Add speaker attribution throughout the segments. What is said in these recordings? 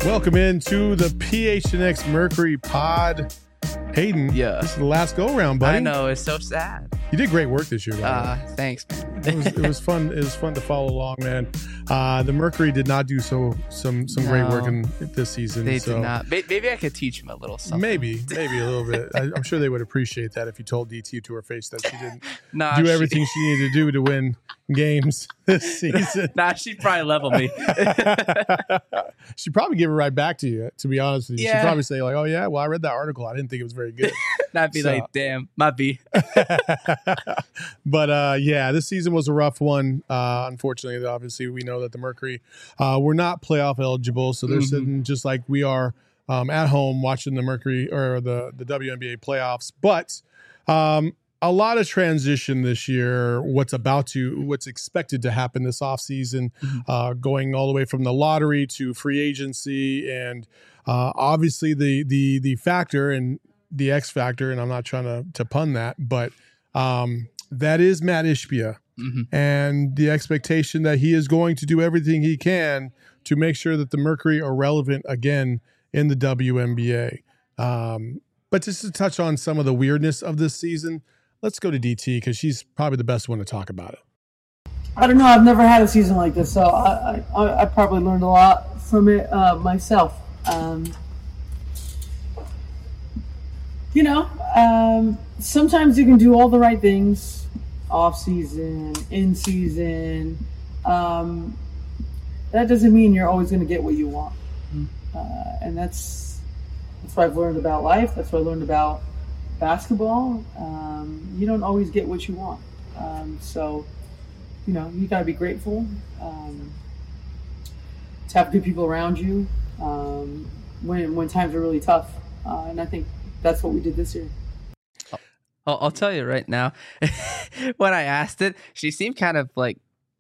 Speaker 1: Welcome into the PHNX Mercury Pod. Hayden,
Speaker 2: Yeah.
Speaker 1: this is the last go-round, buddy.
Speaker 2: I know, it's so sad.
Speaker 1: You did great work this year, by the way.
Speaker 2: Thanks, man.
Speaker 1: It was fun. It was fun to follow along, man. The Mercury did not do some great work in this season.
Speaker 2: They did not. Maybe I could teach him a little something.
Speaker 1: Maybe a little bit. I'm sure they would appreciate that if you told DT to her face that she didn't
Speaker 2: Nah,
Speaker 1: do everything she needed to do to win games this season.
Speaker 2: Nah, she'd probably level me.
Speaker 1: She'd probably give it right back to you, to be honest with you. She'd
Speaker 2: Yeah.
Speaker 1: probably say, like, oh, yeah, well, I read that article. I didn't think it was very good.
Speaker 2: And I'd be
Speaker 1: So-
Speaker 2: like, damn, might be.
Speaker 1: But yeah, this season was a rough one. Unfortunately, obviously, we know that the Mercury were not playoff eligible, so they're sitting just like we are at home watching the Mercury or the WNBA playoffs. But a lot of transition this year. What's expected to happen this offseason, going all the way from the lottery to free agency, and obviously the factor and the X factor, and I'm not trying to pun that, but that is Matt Ishbia, and the expectation that he is going to do everything he can to make sure that the Mercury are relevant again in the WNBA. But just to touch on some of the weirdness of this season, let's go to DT because she's probably the best one to talk about it.
Speaker 3: I don't know. I've never had a season like this, so I probably learned a lot from it myself. Sometimes you can do all the right things, off season, in season. That doesn't mean you're always going to get what you want, and that's what I've learned about life. That's what I learned about basketball. You don't always get what you want, so you got to be grateful to have good people around you when times are really tough, and I think that's what we did this year.
Speaker 2: I'll tell you right now, when I asked it, she seemed kind of like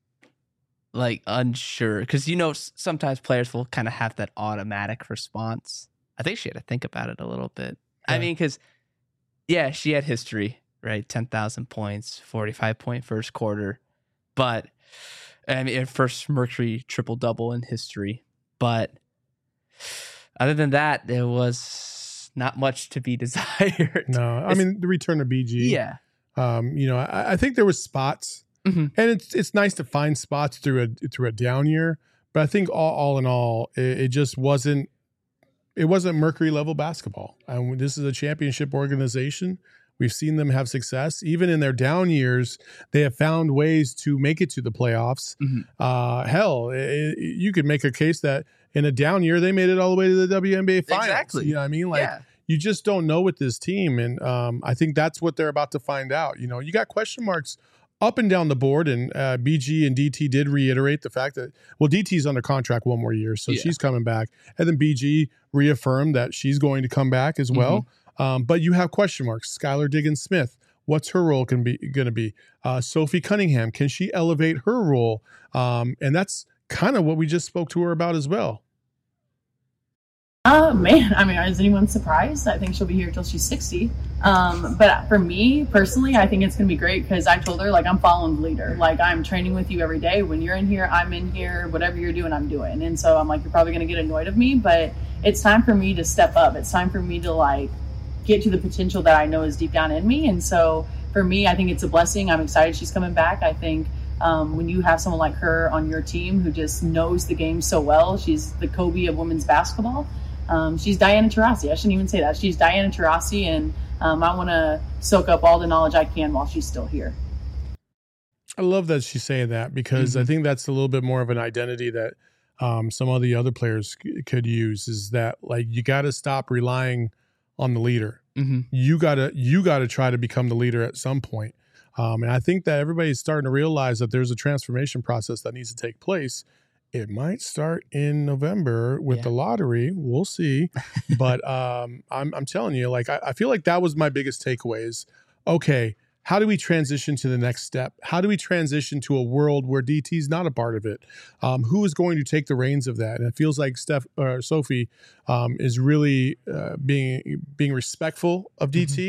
Speaker 2: unsure. Because, sometimes players will kind of have that automatic response. I think she had to think about it a little bit.
Speaker 1: Yeah.
Speaker 2: I mean, because, yeah, she had history, right? 10,000 points, 45-point first quarter. But, I mean, first Mercury triple-double in history. But other than that, there was not much to be desired.
Speaker 1: No, I mean the return of BG.
Speaker 2: Yeah.
Speaker 1: I think there was spots, and it's nice to find spots through a down year. But I think all in all, it just wasn't. It wasn't Mercury level basketball. And this is a championship organization. We've seen them have success. Even in their down years, they have found ways to make it to the playoffs. You could make a case that in a down year, they made it all the way to the WNBA finals.
Speaker 2: Exactly.
Speaker 1: You know what I mean?
Speaker 2: Yeah.
Speaker 1: You just don't know with this team. And I think that's what they're about to find out. You got question marks up and down the board. And BG and DT did reiterate the fact that, DT's under contract one more year, so she's coming back. And then BG reaffirmed that she's going to come back as well. But you have question marks. Skylar Diggins-Smith, what's her role going to be? Sophie Cunningham, can she elevate her role? And that's kind of what we just spoke to her about as well.
Speaker 4: Man, I mean, is anyone surprised? I think she'll be here till she's 60. But for me personally, I think it's going to be great because I told her, I'm following the leader. I'm training with you every day. When you're in here, I'm in here. Whatever you're doing, I'm doing. And so I'm you're probably going to get annoyed of me, but it's time for me to step up. It's time for me to get to the potential that I know is deep down in me. And so for me, I think it's a blessing. I'm excited she's coming back. I think when you have someone like her on your team who just knows the game so well, she's the Kobe of women's basketball. She's Diana Taurasi. I shouldn't even say that. She's Diana Taurasi, and I want to soak up all the knowledge I can while she's still here.
Speaker 1: I love that she's saying that because I think that's a little bit more of an identity that some of the other players could use, is that you got to stop relying on the leader. You got to try to become the leader at some point. And I think that everybody's starting to realize that there's a transformation process that needs to take place. It might start in November with the lottery. We'll see. But I'm telling you, I feel like that was my biggest takeaway is, okay, how do we transition to the next step? How do we transition to a world where DT is not a part of it? Who is going to take the reins of that? And it feels like Sophie is really being respectful of DT,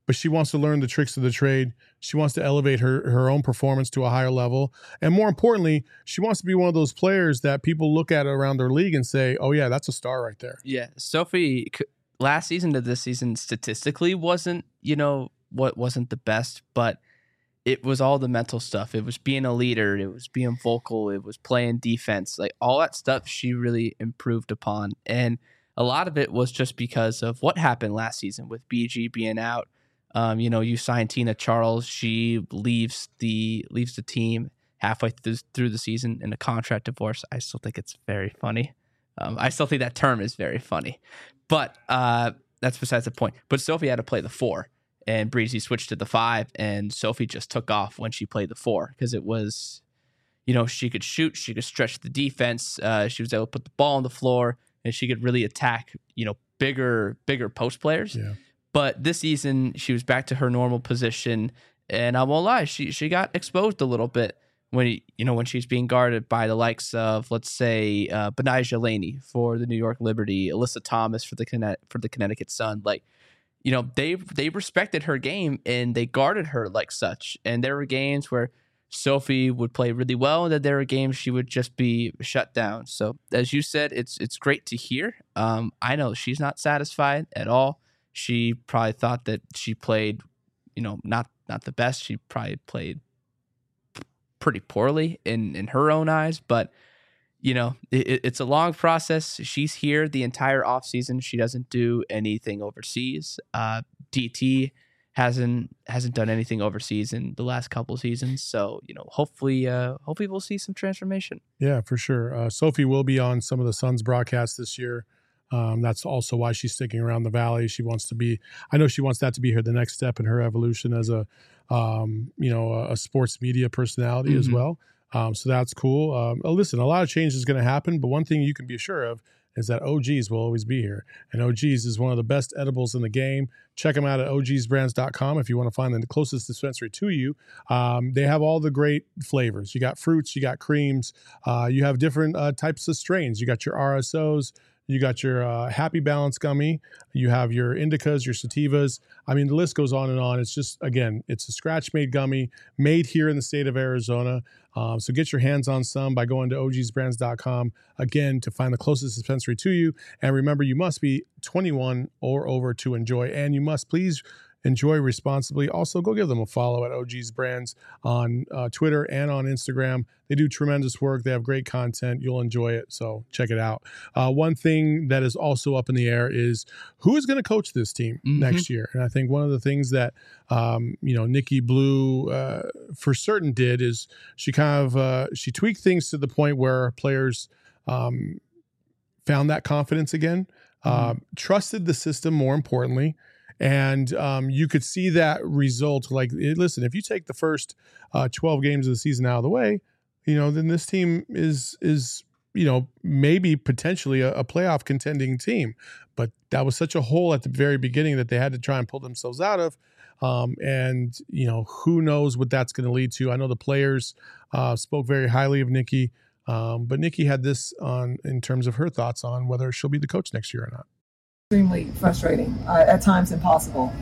Speaker 1: but she wants to learn the tricks of the trade. She wants to elevate her own performance to a higher level. And more importantly, she wants to be one of those players that people look at around their league and say, oh, yeah, that's a star right there.
Speaker 2: Yeah. Sophie, last season to this season, statistically wasn't the best, but it was all the mental stuff. It was being a leader. It was being vocal. It was playing defense. Like all that stuff she really improved upon. And a lot of it was just because of what happened last season with BG being out. You signed Tina Charles. She leaves the team halfway through the season in a contract divorce. I still think it's very funny. I still think that term is very funny. But that's besides the point. But Sophie had to play the 4. And Breezy switched to the 5, and Sophie just took off when she played the 4 because it was, she could shoot, she could stretch the defense, she was able to put the ball on the floor, and she could really attack, bigger post players.
Speaker 1: Yeah.
Speaker 2: But this season, she was back to her normal position, and I won't lie, she got exposed a little bit when she's being guarded by the likes of, let's say, Benijah Laney for the New York Liberty, Alyssa Thomas for the Connecticut Sun, they respected her game and they guarded her like such. And there were games where Sophie would play really well, and then there were games she would just be shut down. So as you said, it's great to hear. I know she's not satisfied at all. She probably thought that she played, not the best. She probably played pretty poorly in her own eyes, but it's a long process. She's here the entire offseason. She doesn't do anything overseas. DT hasn't done anything overseas in the last couple of seasons. So, hopefully we'll see some transformation.
Speaker 1: Yeah, for sure. Sophie will be on some of the Suns broadcasts this year. That's also why she's sticking around the Valley. I know she wants that to be the next step in her evolution as a sports media personality as well. So that's cool. Listen, a lot of change is going to happen, but one thing you can be sure of is that OGs will always be here. And OGs is one of the best edibles in the game. Check them out at ogsbrands.com if you want to find the closest dispensary to you. They have all the great flavors. You got fruits, you got creams, you have different types of strains. You got your RSOs, you got your Happy Balance gummy, you have your indicas, your sativas. I mean, the list goes on and on. It's just, again, it's a scratch-made gummy made here in the state of Arizona. So get your hands on some by going to ogsbrands.com, again, to find the closest dispensary to you. And remember, you must be 21 or over to enjoy, and you must please enjoy responsibly. Also, go give them a follow at OG's Brands on Twitter and on Instagram. They do tremendous work. They have great content. You'll enjoy it, so check it out. One thing that is also up in the air is who is going to coach this team next year. And I think one of the things that Nikki Blue for certain did is she kind of she tweaked things to the point where players found that confidence again, trusted the system more importantly. And you could see that result. Listen, if you take the first 12 games of the season out of the way, then this team is maybe potentially a playoff contending team. But that was such a hole at the very beginning that they had to try and pull themselves out of. And who knows what that's going to lead to. I know the players spoke very highly of Nikki, but Nikki had this in terms of her thoughts on whether she'll be the coach next year or not.
Speaker 5: Extremely frustrating, at times impossible,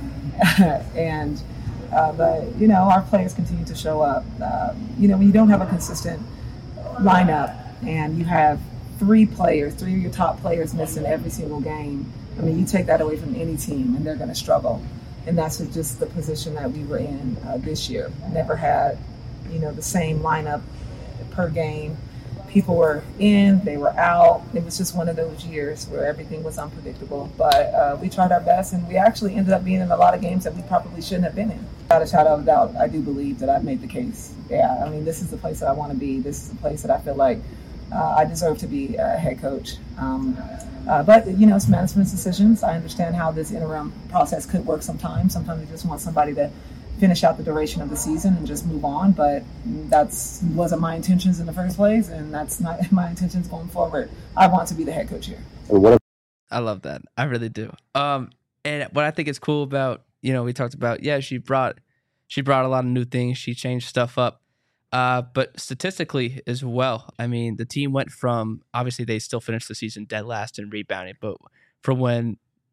Speaker 5: but our players continue to show up. When you don't have a consistent lineup and you have three of your top players missing every single game, I mean, you take that away from any team and they're going to struggle. And that's just the position that we were in this year. Never had the same lineup per game. People were in, they were out. It was just one of those years where everything was unpredictable. But we tried our best, and we actually ended up being in a lot of games that we probably shouldn't have been in. Without a shadow of a doubt, I do believe that I've made the case. Yeah, I mean, this is the place that I want to be. This is the place that I feel like I deserve to be a head coach. But it's management's decisions. I understand how this interim process could work sometimes. Sometimes you just want somebody to finish out the duration of the season and just move on, but wasn't my intentions in the first place, and that's not my intentions going forward. I want to be the head coach here.
Speaker 2: I love that. I really do. And what I think is cool about, we talked about, she brought a lot of new things. She changed stuff up. But statistically as well, I mean, the team went from, obviously they still finished the season dead last in rebounding, but from when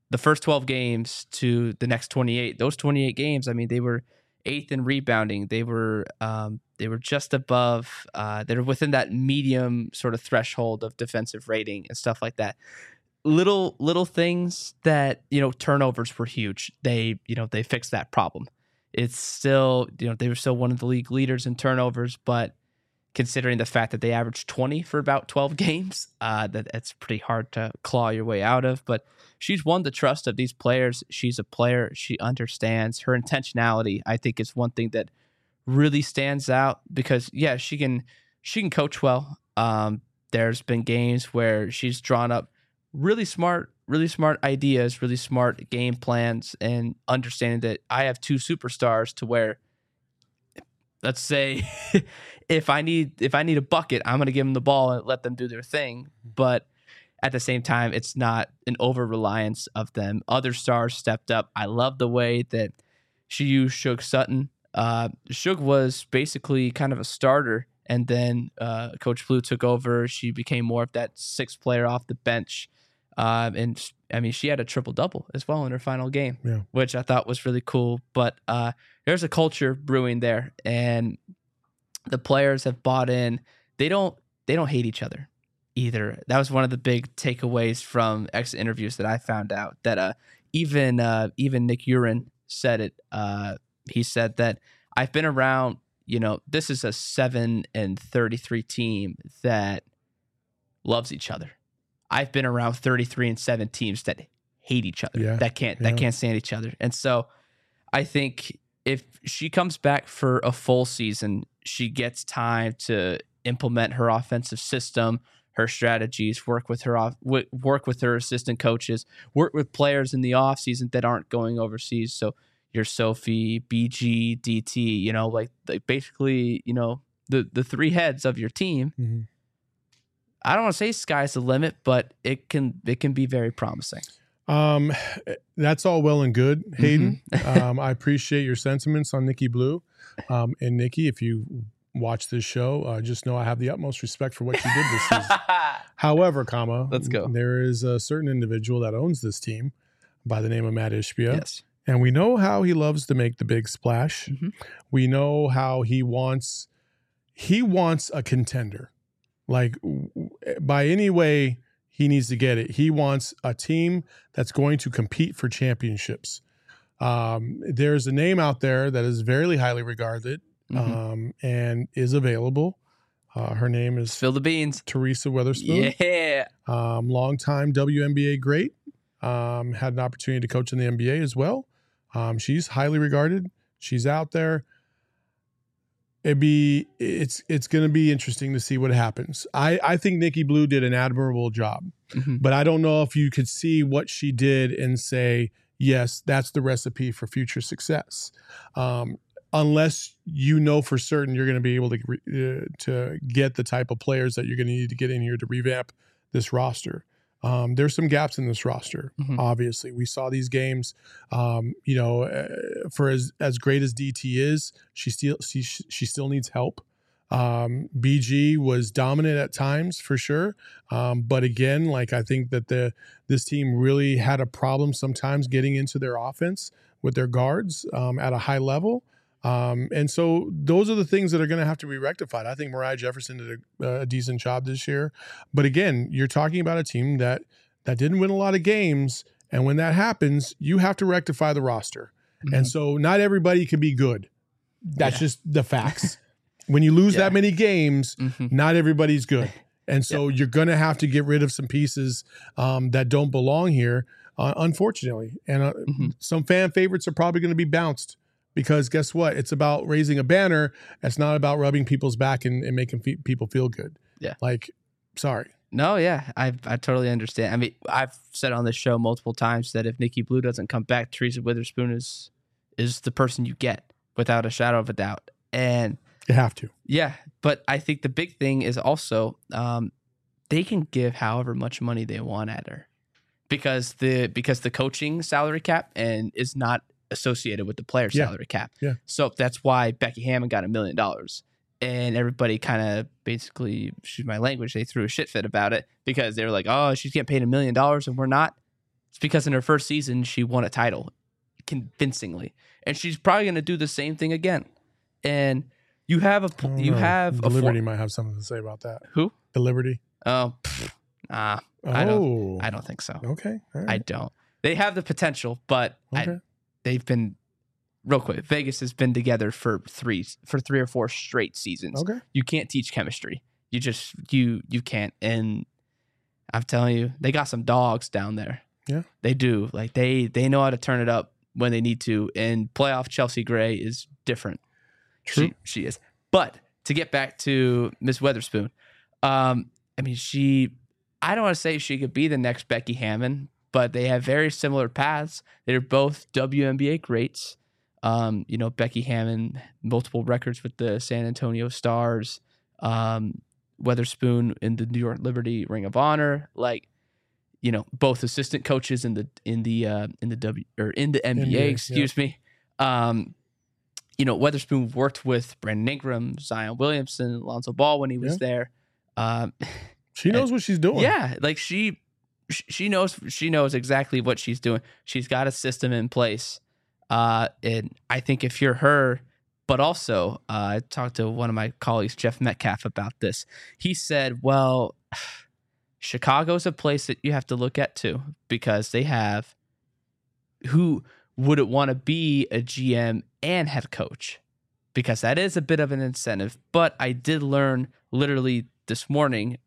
Speaker 2: the first 12 games to the next 28. Those 28 games, I mean, they were 8th in rebounding. They were just above. They were within that medium sort of threshold of defensive rating and stuff like that. Little things that, turnovers were huge. They fixed that problem. It's still, they were still one of the league leaders in turnovers, but considering the fact that they averaged 20 for about 12 games, that's pretty hard to claw your way out of. But she's won the trust of these players. She's a player. She understands. Her intentionality, I think, is one thing that really stands out because, yeah, she can coach well. There's been games where she's drawn up really smart ideas, really smart game plans, and understanding that I have 2 superstars to where, let's say, if I need a bucket, I'm going to give them the ball and let them do their thing. But at the same time, it's not an over-reliance of them. Other stars stepped up. I love the way that she used Shug Sutton. Shug was basically kind of a starter, and then Coach Blue took over. She became more of that 6th player off the bench. And I mean, she had a triple-double as well in her final game, which I thought was really cool. But there's a culture brewing there, and the players have bought in. They don't hate each other either. That was one of the big takeaways from exit interviews that I found out, that even Nick Urin said it. He said that I've been around, this is a 7-33 team that loves each other. I've been around 33-7 teams that hate each other, that can't stand each other. And so I think if she comes back for a full season, she gets time to implement her offensive system, her strategies, work with her assistant coaches, work with players in the offseason that aren't going overseas. So your Sophie, BG, DT, like basically, the 3 heads of your team. Mm-hmm. I don't want to say sky's the limit, but it can be very promising.
Speaker 1: That's all well and good, Hayden. Mm-hmm. I appreciate your sentiments on Nikki Blue. And Nikki, if you watch this show, just know I have the utmost respect for what you did this season. However,
Speaker 2: let's go.
Speaker 1: There is a certain individual that owns this team by the name of Matt Ishbia.
Speaker 2: Yes.
Speaker 1: And we know how he loves to make the big splash. Mm-hmm. We know how he wants a contender. Like, by any way he needs to get it. He wants a team that's going to compete for championships. There's a name out there that is very highly regarded, mm-hmm. And is available. Her name is
Speaker 2: Spill the Beans.
Speaker 1: Teresa Weatherspoon.
Speaker 2: Yeah.
Speaker 1: Longtime WNBA great. Had an opportunity to coach in the NBA as well. She's highly regarded. She's out there. It's going to be interesting to see what happens. I think Nikki Blue did an admirable job, mm-hmm. but I don't know if you could see what she did and say, yes, that's the recipe for future success. Unless you know for certain you're going to be able to get the type of players that you're going to need to get in here to revamp this roster. There's some gaps in this roster. Mm-hmm. Obviously, we saw these games. For as great as DT is, she still needs help. BG was dominant at times for sure, but again, like, I think that this team really had a problem sometimes getting into their offense with their guards at a high level. And so those are the things that are going to have to be rectified. I think Mariah Jefferson did a decent job this year. But again, you're talking about a team that didn't win a lot of games. And when that happens, you have to rectify the roster. Mm-hmm. And so not everybody can be good. That's just the facts. When you lose that many games, mm-hmm. not everybody's good. And so you're going to have to get rid of some pieces that don't belong here, unfortunately. And mm-hmm. some fan favorites are probably going to be bounced. Because guess what? It's about raising a banner. It's not about rubbing people's back and making people feel good.
Speaker 2: Yeah.
Speaker 1: Like, sorry.
Speaker 2: No, yeah. I totally understand. I mean, I've said on this show multiple times that if Nikki Blue doesn't come back, Teresa Weatherspoon is the person you get without a shadow of a doubt. And
Speaker 1: you have to.
Speaker 2: Yeah. But I think the big thing is also they can give however much money they want at her. Because the coaching salary cap and is not associated with the player salary cap.
Speaker 1: Yeah.
Speaker 2: So that's why Becky Hammon got $1 million. And everybody kind of basically, excuse my language, they threw a shit fit about it because they were like, oh, she's getting paid $1 million and we're not. It's because in her first season, she won a title convincingly. And she's probably going to do the same thing again. And you have a
Speaker 1: the Liberty might have something to say about that.
Speaker 2: Who?
Speaker 1: The Liberty.
Speaker 2: Oh, I don't think so.
Speaker 1: Okay. All right.
Speaker 2: I don't. They have the potential, but
Speaker 1: Okay.
Speaker 2: they've been real quick. Vegas has been together for 3 or 4 straight seasons.
Speaker 1: Okay.
Speaker 2: You can't teach chemistry. You just you can't. And I'm telling you, they got some dogs down there.
Speaker 1: Yeah.
Speaker 2: They do. Like they know how to turn it up when they need to. And playoff Chelsea Gray is different.
Speaker 1: True.
Speaker 2: She is. But to get back to Miss Weatherspoon, I mean, I don't want to say she could be the next Becky Hammon, but they have very similar paths. They're both WNBA greats. Becky Hammon, multiple records with the San Antonio Stars. Weatherspoon in the New York Liberty Ring of Honor. Like, both assistant coaches in the NBA. Excuse me. Weatherspoon worked with Brandon Ingram, Zion Williamson, Lonzo Ball when he was there.
Speaker 1: She knows what she's doing.
Speaker 2: Yeah, like she knows exactly what she's doing. She's got a system in place. And I think if you're her, but also I talked to one of my colleagues, Jeff Metcalf, about this. He said, well, Chicago's a place that you have to look at too, because they have who wouldn't want to be a GM and head coach, because that is a bit of an incentive. But I did learn literally this morning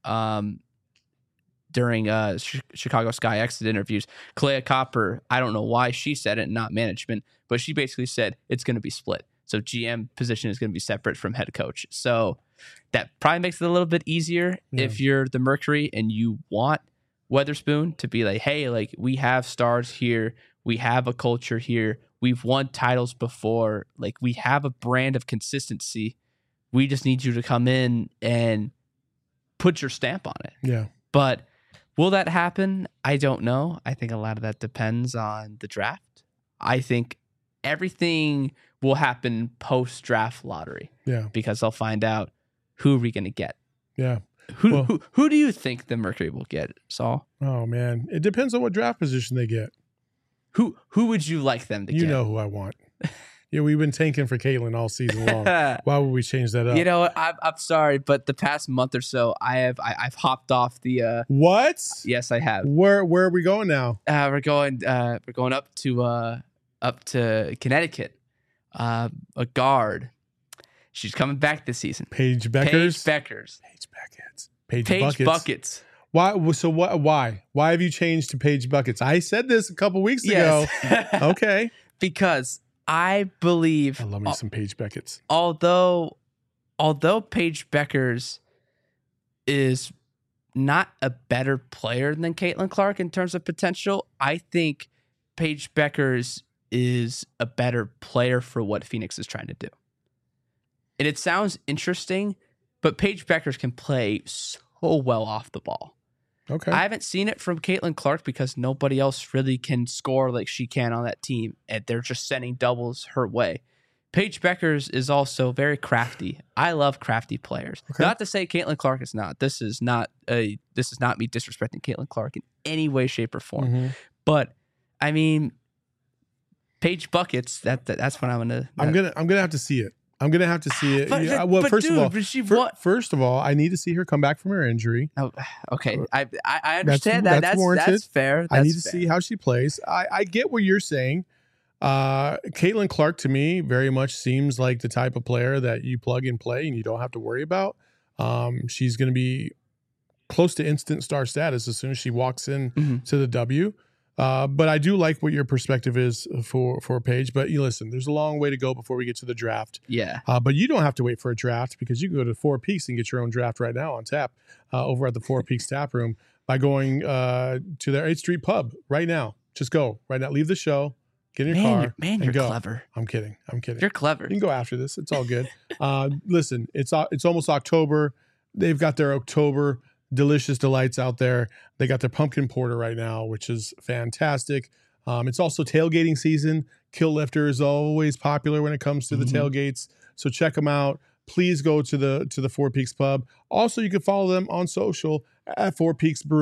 Speaker 2: during Chicago Sky exit interviews, Kalea Copper, I don't know why she said it, not management, but she basically said it's going to be split. So GM position is going to be separate from head coach. So that probably makes it a little bit easier if you're the Mercury and you want Weatherspoon to be like, hey, like we have stars here. We have a culture here. We've won titles before. Like we have a brand of consistency. We just need you to come in and put your stamp on it.
Speaker 1: Yeah.
Speaker 2: But will that happen? I don't know. I think a lot of that depends on the draft. I think everything will happen post-draft lottery.
Speaker 1: Yeah.
Speaker 2: Because they'll find out who are we going to get.
Speaker 1: Yeah.
Speaker 2: Who do you think the Mercury will get, Saul?
Speaker 1: Oh man, it depends on what draft position they get.
Speaker 2: Who would you like them to get?
Speaker 1: You know who I want. Yeah, we've been tanking for Caitlin all season long. Why would we change that up?
Speaker 2: You know what? I'm sorry, but the past month or so, I've hopped off the.
Speaker 1: What?
Speaker 2: Yes, I have.
Speaker 1: Where are we going now?
Speaker 2: We're going up to Connecticut. A guard. She's coming back this season.
Speaker 1: Paige Beckers.
Speaker 2: Paige Buckets.
Speaker 1: Why? So what? Why? Why have you changed to Paige Buckets? I said this a couple weeks ago. Okay.
Speaker 2: Because I believe
Speaker 1: I love me some Paige Buckets.
Speaker 2: Although Paige Beckers is not a better player than Caitlin Clark in terms of potential, I think Paige Beckers is a better player for what Phoenix is trying to do. And it sounds interesting, but Paige Beckers can play so well off the ball.
Speaker 1: Okay.
Speaker 2: I haven't seen it from Caitlin Clark because nobody else really can score like she can on that team, and they're just sending doubles her way. Paige Beckers is also very crafty. I love crafty players.
Speaker 1: Okay.
Speaker 2: Not to say Caitlin Clark is not. This is not me disrespecting Caitlin Clark in any way, shape, or form.
Speaker 1: Mm-hmm.
Speaker 2: But I mean, Paige Buckets. That's what I'm gonna.
Speaker 1: I'm gonna have to see it. I'm gonna have to see it. First of all, I need to see her come back from her injury.
Speaker 2: Oh, okay. I understand that's warranted. That's fair.
Speaker 1: I need to see how she plays. I get what you're saying. Caitlin Clark to me very much seems like the type of player that you plug and play and you don't have to worry about. She's going to be close to instant star status as soon as she walks in to the W. But I do like what your perspective is for Paige. But you listen, there's a long way to go before we get to the draft.
Speaker 2: Yeah.
Speaker 1: But you don't have to wait for a draft because you can go to Four Peaks and get your own draft right now on tap over at the Four Peaks Tap Room by going to their 8th Street Pub right now. Just go right now. Leave the show. Get in your car.
Speaker 2: You're
Speaker 1: go.
Speaker 2: Clever.
Speaker 1: I'm kidding.
Speaker 2: You're clever.
Speaker 1: You can go after this. It's all good. Listen, it's almost October. They've got their October delicious delights out there. They got their pumpkin porter right now, which is fantastic. It's also tailgating season. Kill Lifter is always popular when it comes to the tailgates. So check them out. Please go to the Four Peaks Pub. Also, you can follow them on social at Four Peaks Brew.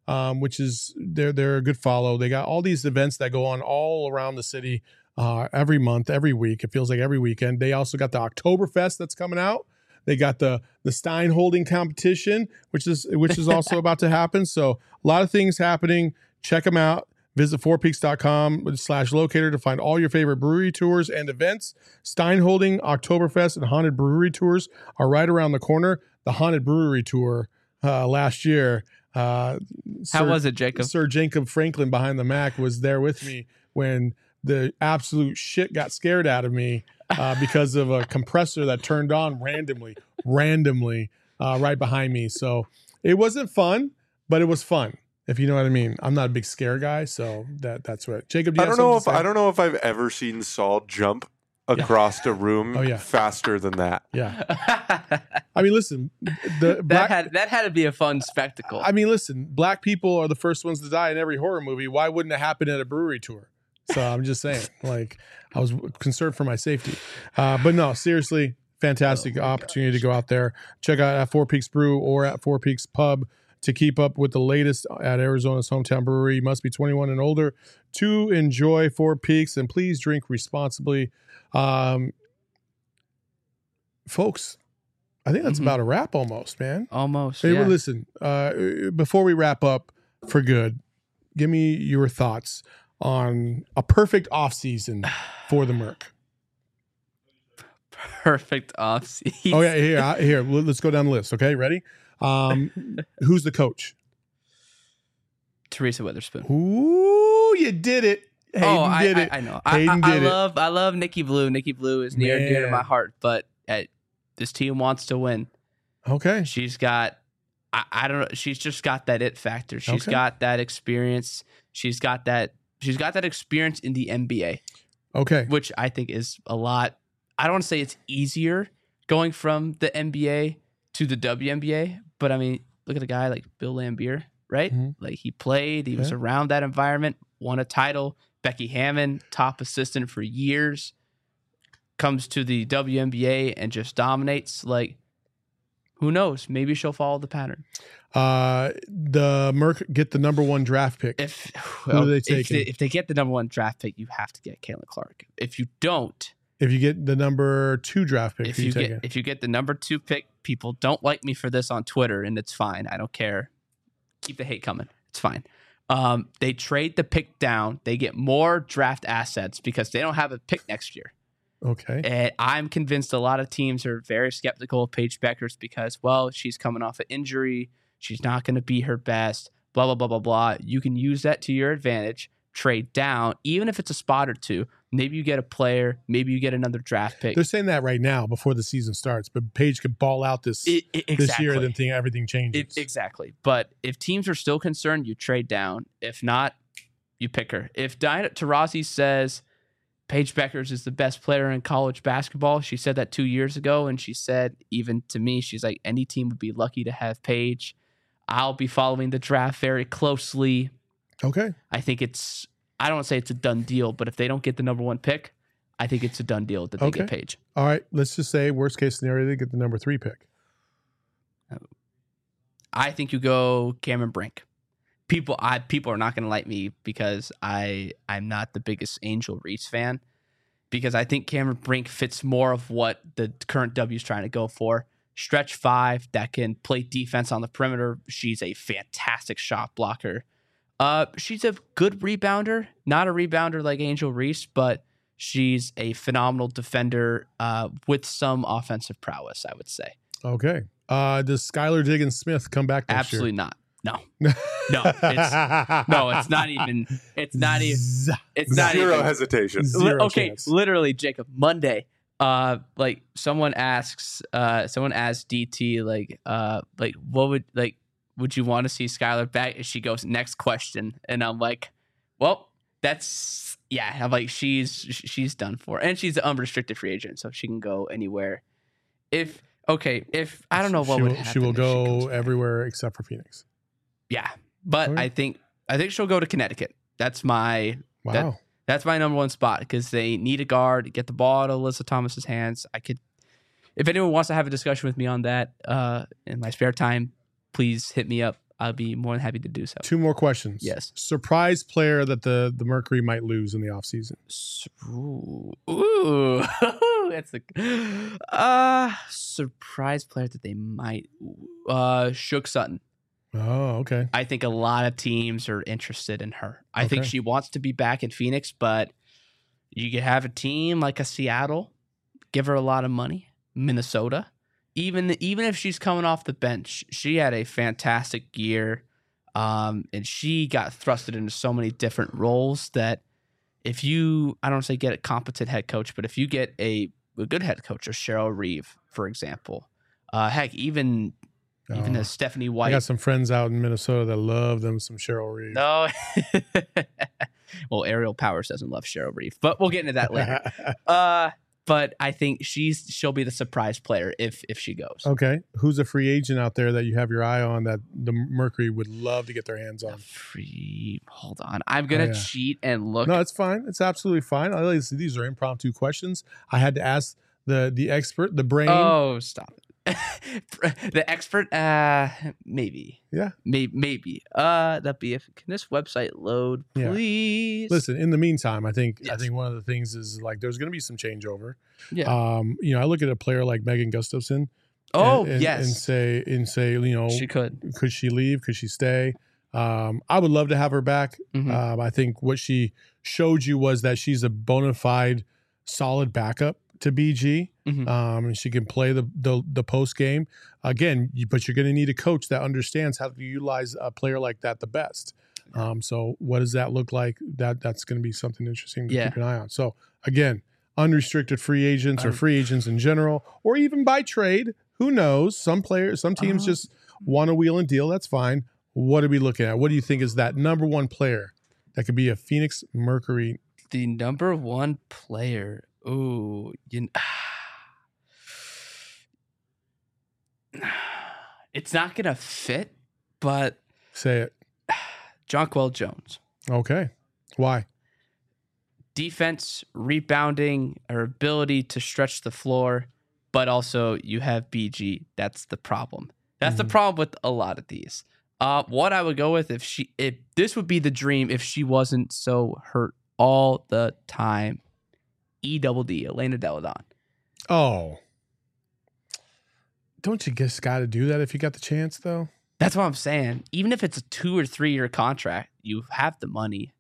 Speaker 1: which is they're a good follow. They got all these events that go on all around the city every month, every week. It feels like every weekend. They also got the Oktoberfest that's coming out. They got the Stein holding competition, which is also about to happen. So a lot of things happening. Check them out. Visit fourpeaks.com/locator to find all your favorite brewery tours and events. Stein holding, Oktoberfest, and haunted brewery tours are right around the corner. The haunted brewery tour last year.
Speaker 2: How was it, Jacob?
Speaker 1: Sir Jacob Franklin behind the Mac was there with me when the absolute shit got scared out of me because of a compressor that turned on randomly right behind me. So it wasn't fun, but it was fun. If you know what I mean. I'm not a big scare guy, so that's what. Jacob,
Speaker 6: I don't know if I've ever seen Saul jump across a room faster than that.
Speaker 1: Yeah. I mean, listen,
Speaker 2: that had to be a fun spectacle.
Speaker 1: I mean, listen, black people are the first ones to die in every horror movie. Why wouldn't it happen at a brewery tour? So I'm just saying, like, I was concerned for my safety. But no, seriously, fantastic opportunity to go out there. Check out at Four Peaks Brew or at Four Peaks Pub to keep up with the latest at Arizona's hometown brewery. You must be 21 and older to enjoy Four Peaks, and please drink responsibly. Folks, I think that's about a wrap almost, man.
Speaker 2: Almost.
Speaker 1: Hey,
Speaker 2: yeah.
Speaker 1: well, listen, before we wrap up for good, give me your thoughts on a perfect offseason for the Merc.
Speaker 2: Perfect offseason.
Speaker 1: Oh, yeah, here. Let's go down the list, okay? Ready? Who's the coach?
Speaker 2: Teresa Witherspoon.
Speaker 1: Ooh, you did it. Hayden did it.
Speaker 2: I know.
Speaker 1: Hayden did it.
Speaker 2: I love Nikki Blue. Nikki Blue is near and dear to my heart, but this team wants to win.
Speaker 1: Okay.
Speaker 2: She's got, I don't know. She's just got that it factor. She's got that experience. She's got that experience in the NBA.
Speaker 1: Okay.
Speaker 2: Which I think is a lot. I don't want to say it's easier going from the NBA to the WNBA, but I mean, look at a guy like Bill Laimbeer, right? Mm-hmm. Like he played, he was around that environment, won a title. Becky Hammon, top assistant for years, comes to the WNBA and just dominates. Like, who knows? Maybe she'll follow the pattern.
Speaker 1: The Merc get the number 1 draft pick. Who are they taking?
Speaker 2: If they get the number 1 draft pick, you have to get Caitlin Clark. If you don't,
Speaker 1: if you get the number 2 draft pick,
Speaker 2: if you get the number 2 pick, people don't like me for this on Twitter, and it's fine. I don't care. Keep the hate coming. It's fine. They trade the pick down. They get more draft assets because they don't have a pick next year.
Speaker 1: Okay.
Speaker 2: And I'm convinced a lot of teams are very skeptical of Paige Beckers because, well, she's coming off an injury. She's not going to be her best, blah, blah, blah, blah, blah. You can use that to your advantage, trade down, even if it's a spot or two. Maybe you get a player. Maybe you get another draft pick.
Speaker 1: They're saying that right now before the season starts, but Paige could ball out this year, then everything changes.
Speaker 2: Exactly. But if teams are still concerned, you trade down. If not, you pick her. If Diana Taurasi says Paige Beckers is the best player in college basketball, she said that 2 years ago, and she said, even to me, she's like, any team would be lucky to have Paige. I'll be following the draft very closely.
Speaker 1: Okay.
Speaker 2: I think I don't want to say it's a done deal, but if they don't get the number 1 pick, I think it's a done deal that they get Paige.
Speaker 1: All right. Let's just say worst case scenario, they get the number 3 pick.
Speaker 2: I think you go Cameron Brink. People are not going to like me because I'm not the biggest Angel Reese fan, because I think Cameron Brink fits more of what the current W is trying to go for. Stretch 5 that can play defense on the perimeter. She's a fantastic shot blocker. She's a good rebounder, not a rebounder like Angel Reese, but she's a phenomenal defender with some offensive prowess, I would say.
Speaker 1: Okay. Does Skylar Diggins-Smith come back next
Speaker 2: Absolutely
Speaker 1: year?
Speaker 2: not. No. It's not even.
Speaker 6: Zero hesitation.
Speaker 1: Zero
Speaker 2: okay,
Speaker 1: chance.
Speaker 2: Literally, Jacob. Monday, like someone asked DT, like what would you want to see Skylar back? And she goes, next question, and I'm like, well, that's I'm like, she's done for, and she's an unrestricted free agent, so she can go anywhere. If I don't know what would happen.
Speaker 1: She will go everywhere except for Phoenix.
Speaker 2: Yeah, but okay. I think she'll go to Connecticut. That's my that's my number 1 spot because they need a guard. Get the ball out of Alyssa Thomas's hands. If anyone wants to have a discussion with me on that in my spare time, please hit me up. I'll be more than happy to do so.
Speaker 1: 2 more questions.
Speaker 2: Yes.
Speaker 1: Surprise player that the Mercury might lose in the offseason.
Speaker 2: Ooh. That's a surprise player that they might. Shook Sutton.
Speaker 1: Oh, okay.
Speaker 2: I think a lot of teams are interested in her. I think she wants to be back in Phoenix, but you could have a team like a Seattle, give her a lot of money. Minnesota, even if she's coming off the bench, she had a fantastic year, and she got thrusted into so many different roles that if you, I don't say get a competent head coach, but if you get a good head coach, or Cheryl Reeve, for example, heck, even as Stephanie White.
Speaker 1: I got some friends out in Minnesota that love them some Cheryl Reeve.
Speaker 2: No. Well, Ariel Powers doesn't love Cheryl Reeve, but we'll get into that later. But I think she'll be the surprise player if she goes.
Speaker 1: Okay. Who's a free agent out there that you have your eye on that the Mercury would love to get their hands on?
Speaker 2: Hold on. I'm going to cheat and look.
Speaker 1: No, it's fine. It's absolutely fine. These are impromptu questions. I had to ask the expert, the brain.
Speaker 2: Oh, stop it. The expert, maybe.
Speaker 1: Yeah.
Speaker 2: Maybe. That'd be can this website load, please?
Speaker 1: Yeah. Listen, in the meantime, I think one of the things is like there's going to be some changeover.
Speaker 2: Yeah.
Speaker 1: I look at a player like Megan Gustafson.
Speaker 2: And
Speaker 1: say,
Speaker 2: she
Speaker 1: could she leave? Could she stay? I would love to have her back.
Speaker 2: Mm-hmm.
Speaker 1: I think what she showed you was that she's a bona fide solid backup to BG.
Speaker 2: Mm-hmm.
Speaker 1: And she can play the post game again, but you're going to need a coach that understands how to utilize a player like that the best. So what does that look like? That's going to be something interesting to keep an eye on. So again, unrestricted free agents or free agents in general, or even by trade, who knows? Some teams just want to wheel and deal. That's fine. What are we looking at? What do you think is that number one player that could be a Phoenix Mercury?
Speaker 2: The number one player. Ooh, it's not gonna fit, but
Speaker 1: say it.
Speaker 2: Jonquel Jones.
Speaker 1: Okay, why?
Speaker 2: Defense, rebounding, her ability to stretch the floor, but also you have BG. That's the problem. That's the problem with a lot of these. What I would go with if this would be the dream if she wasn't so hurt all the time. EDD, Elena Delle Donne.
Speaker 1: Oh. Don't you just got to do that if you got the chance, though?
Speaker 2: That's what I'm saying. Even if it's a 2 or 3 year contract, you have the money.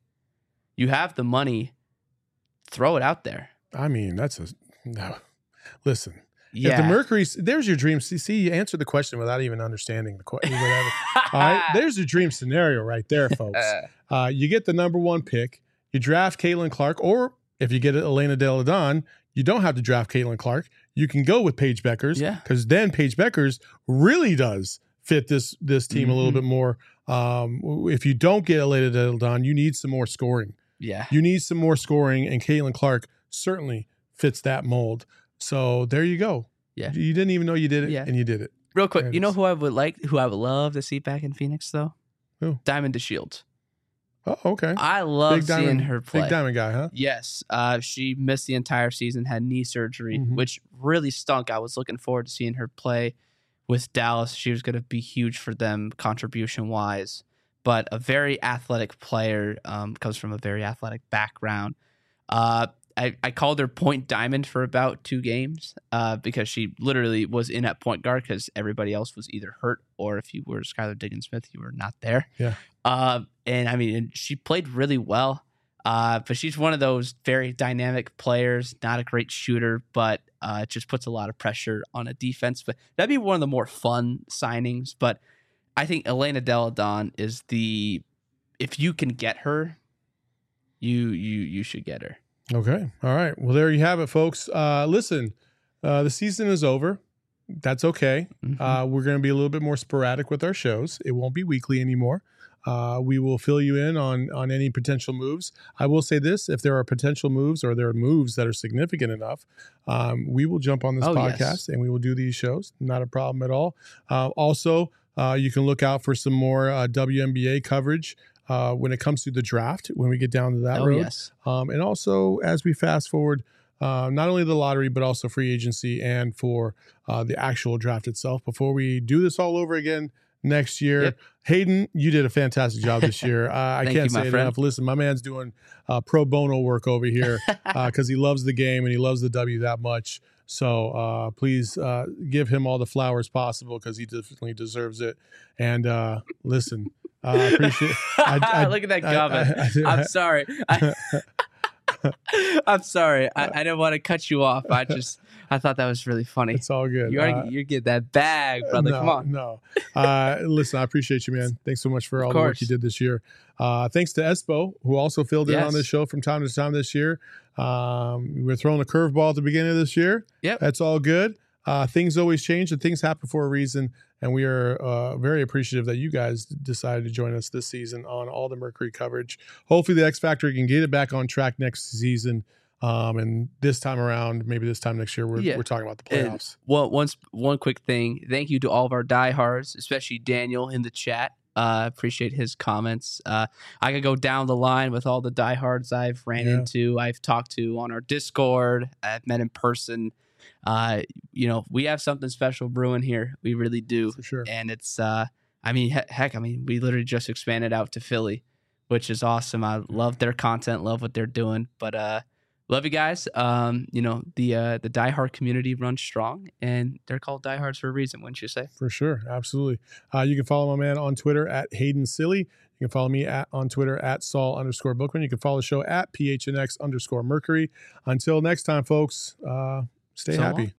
Speaker 2: Throw it out there.
Speaker 1: I mean, no. Listen.
Speaker 2: Yeah.
Speaker 1: If the Mercury's, there's your dream. See, you answered the question without even understanding the question. All right. There's your dream scenario right there, folks. You get the number one pick. You draft Caitlin Clark, or if you get Elena Delle Donne, you don't have to draft Caitlin Clark. You can go with Paige Beckers, because then Paige Beckers really does fit this team a little bit more. If you don't get Elena Delle Donne, you need some more scoring.
Speaker 2: Yeah,
Speaker 1: you need some more scoring, and Caitlin Clark certainly fits that mold. So there you go.
Speaker 2: Yeah,
Speaker 1: you didn't even know you did it, and you did it.
Speaker 2: Real quick, you know who I would love to see back in Phoenix though?
Speaker 1: Who?
Speaker 2: Diamond DeShields.
Speaker 1: Oh, okay.
Speaker 2: I love seeing her play.
Speaker 1: Big diamond guy, huh?
Speaker 2: Yes. She missed the entire season, had knee surgery, which really stunk. I was looking forward to seeing her play with Dallas. She was going to be huge for them contribution-wise. But a very athletic player, comes from a very athletic background. I called her Point Diamond for about 2 games because she literally was in at point guard because everybody else was either hurt or if you were Skylar Diggins-Smith, you were not there.
Speaker 1: Yeah.
Speaker 2: And I mean, she played really well, but she's one of those very dynamic players, not a great shooter, but it just puts a lot of pressure on a defense. But that'd be one of the more fun signings. But I think Elena Delle Donne is if you can get her, you should get her.
Speaker 1: Okay. All right. Well, there you have it, folks. Listen, the season is over. That's okay. We're going to be a little bit more sporadic with our shows. It won't be weekly anymore. We will fill you in on any potential moves. I will say this, if there are potential moves or there are moves that are significant enough, we will jump on this podcast and we will do these shows. Not a problem at all. Also, you can look out for some more WNBA coverage when it comes to the draft, when we get down to that road.
Speaker 2: Yes.
Speaker 1: And also, as we fast forward, not only the lottery, but also free agency and for the actual draft itself. Before we do this all over again next year.
Speaker 2: Yep.
Speaker 1: Hayden, you did a fantastic job this year. I can't say it enough. Listen, my man's doing pro bono work over here because he loves the game and he loves the W that much. So please give him all the flowers possible because he definitely deserves it. And listen, I appreciate it.
Speaker 2: Look at that comment. I'm sorry. I'm sorry. I didn't want to cut you off. I thought that was really funny.
Speaker 1: It's all good.
Speaker 2: You get that bag, brother. Come on.
Speaker 1: No. Listen, I appreciate you, man. Thanks so much for all the work you did this year. Thanks to Espo, who also filled in on this show from time to time this year. We're throwing a curveball at the beginning of this year.
Speaker 2: Yep.
Speaker 1: That's all good. Things always change and things happen for a reason. And we are very appreciative that you guys decided to join us this season on all the Mercury coverage. Hopefully the X Factor can get it back on track next season. And this time around, maybe this time next year, we're talking about the playoffs.
Speaker 2: One quick thing. Thank you to all of our diehards, especially Daniel in the chat. Appreciate his comments. I could go down the line with all the diehards I've ran into, I've talked to on our Discord, I've met in person. We have something special brewing here. We really do.
Speaker 1: For sure.
Speaker 2: And it's, we literally just expanded out to Philly, which is awesome. I love their content, love what they're doing, but, love you guys. The diehard community runs strong and they're called diehards for a reason, wouldn't you say?
Speaker 1: For sure. Absolutely. You can follow my man on Twitter at Hayden Silly. You can follow me on Twitter at Saul_Bookman. You can follow the show at PHNX_Mercury. Until next time, folks, stay happy.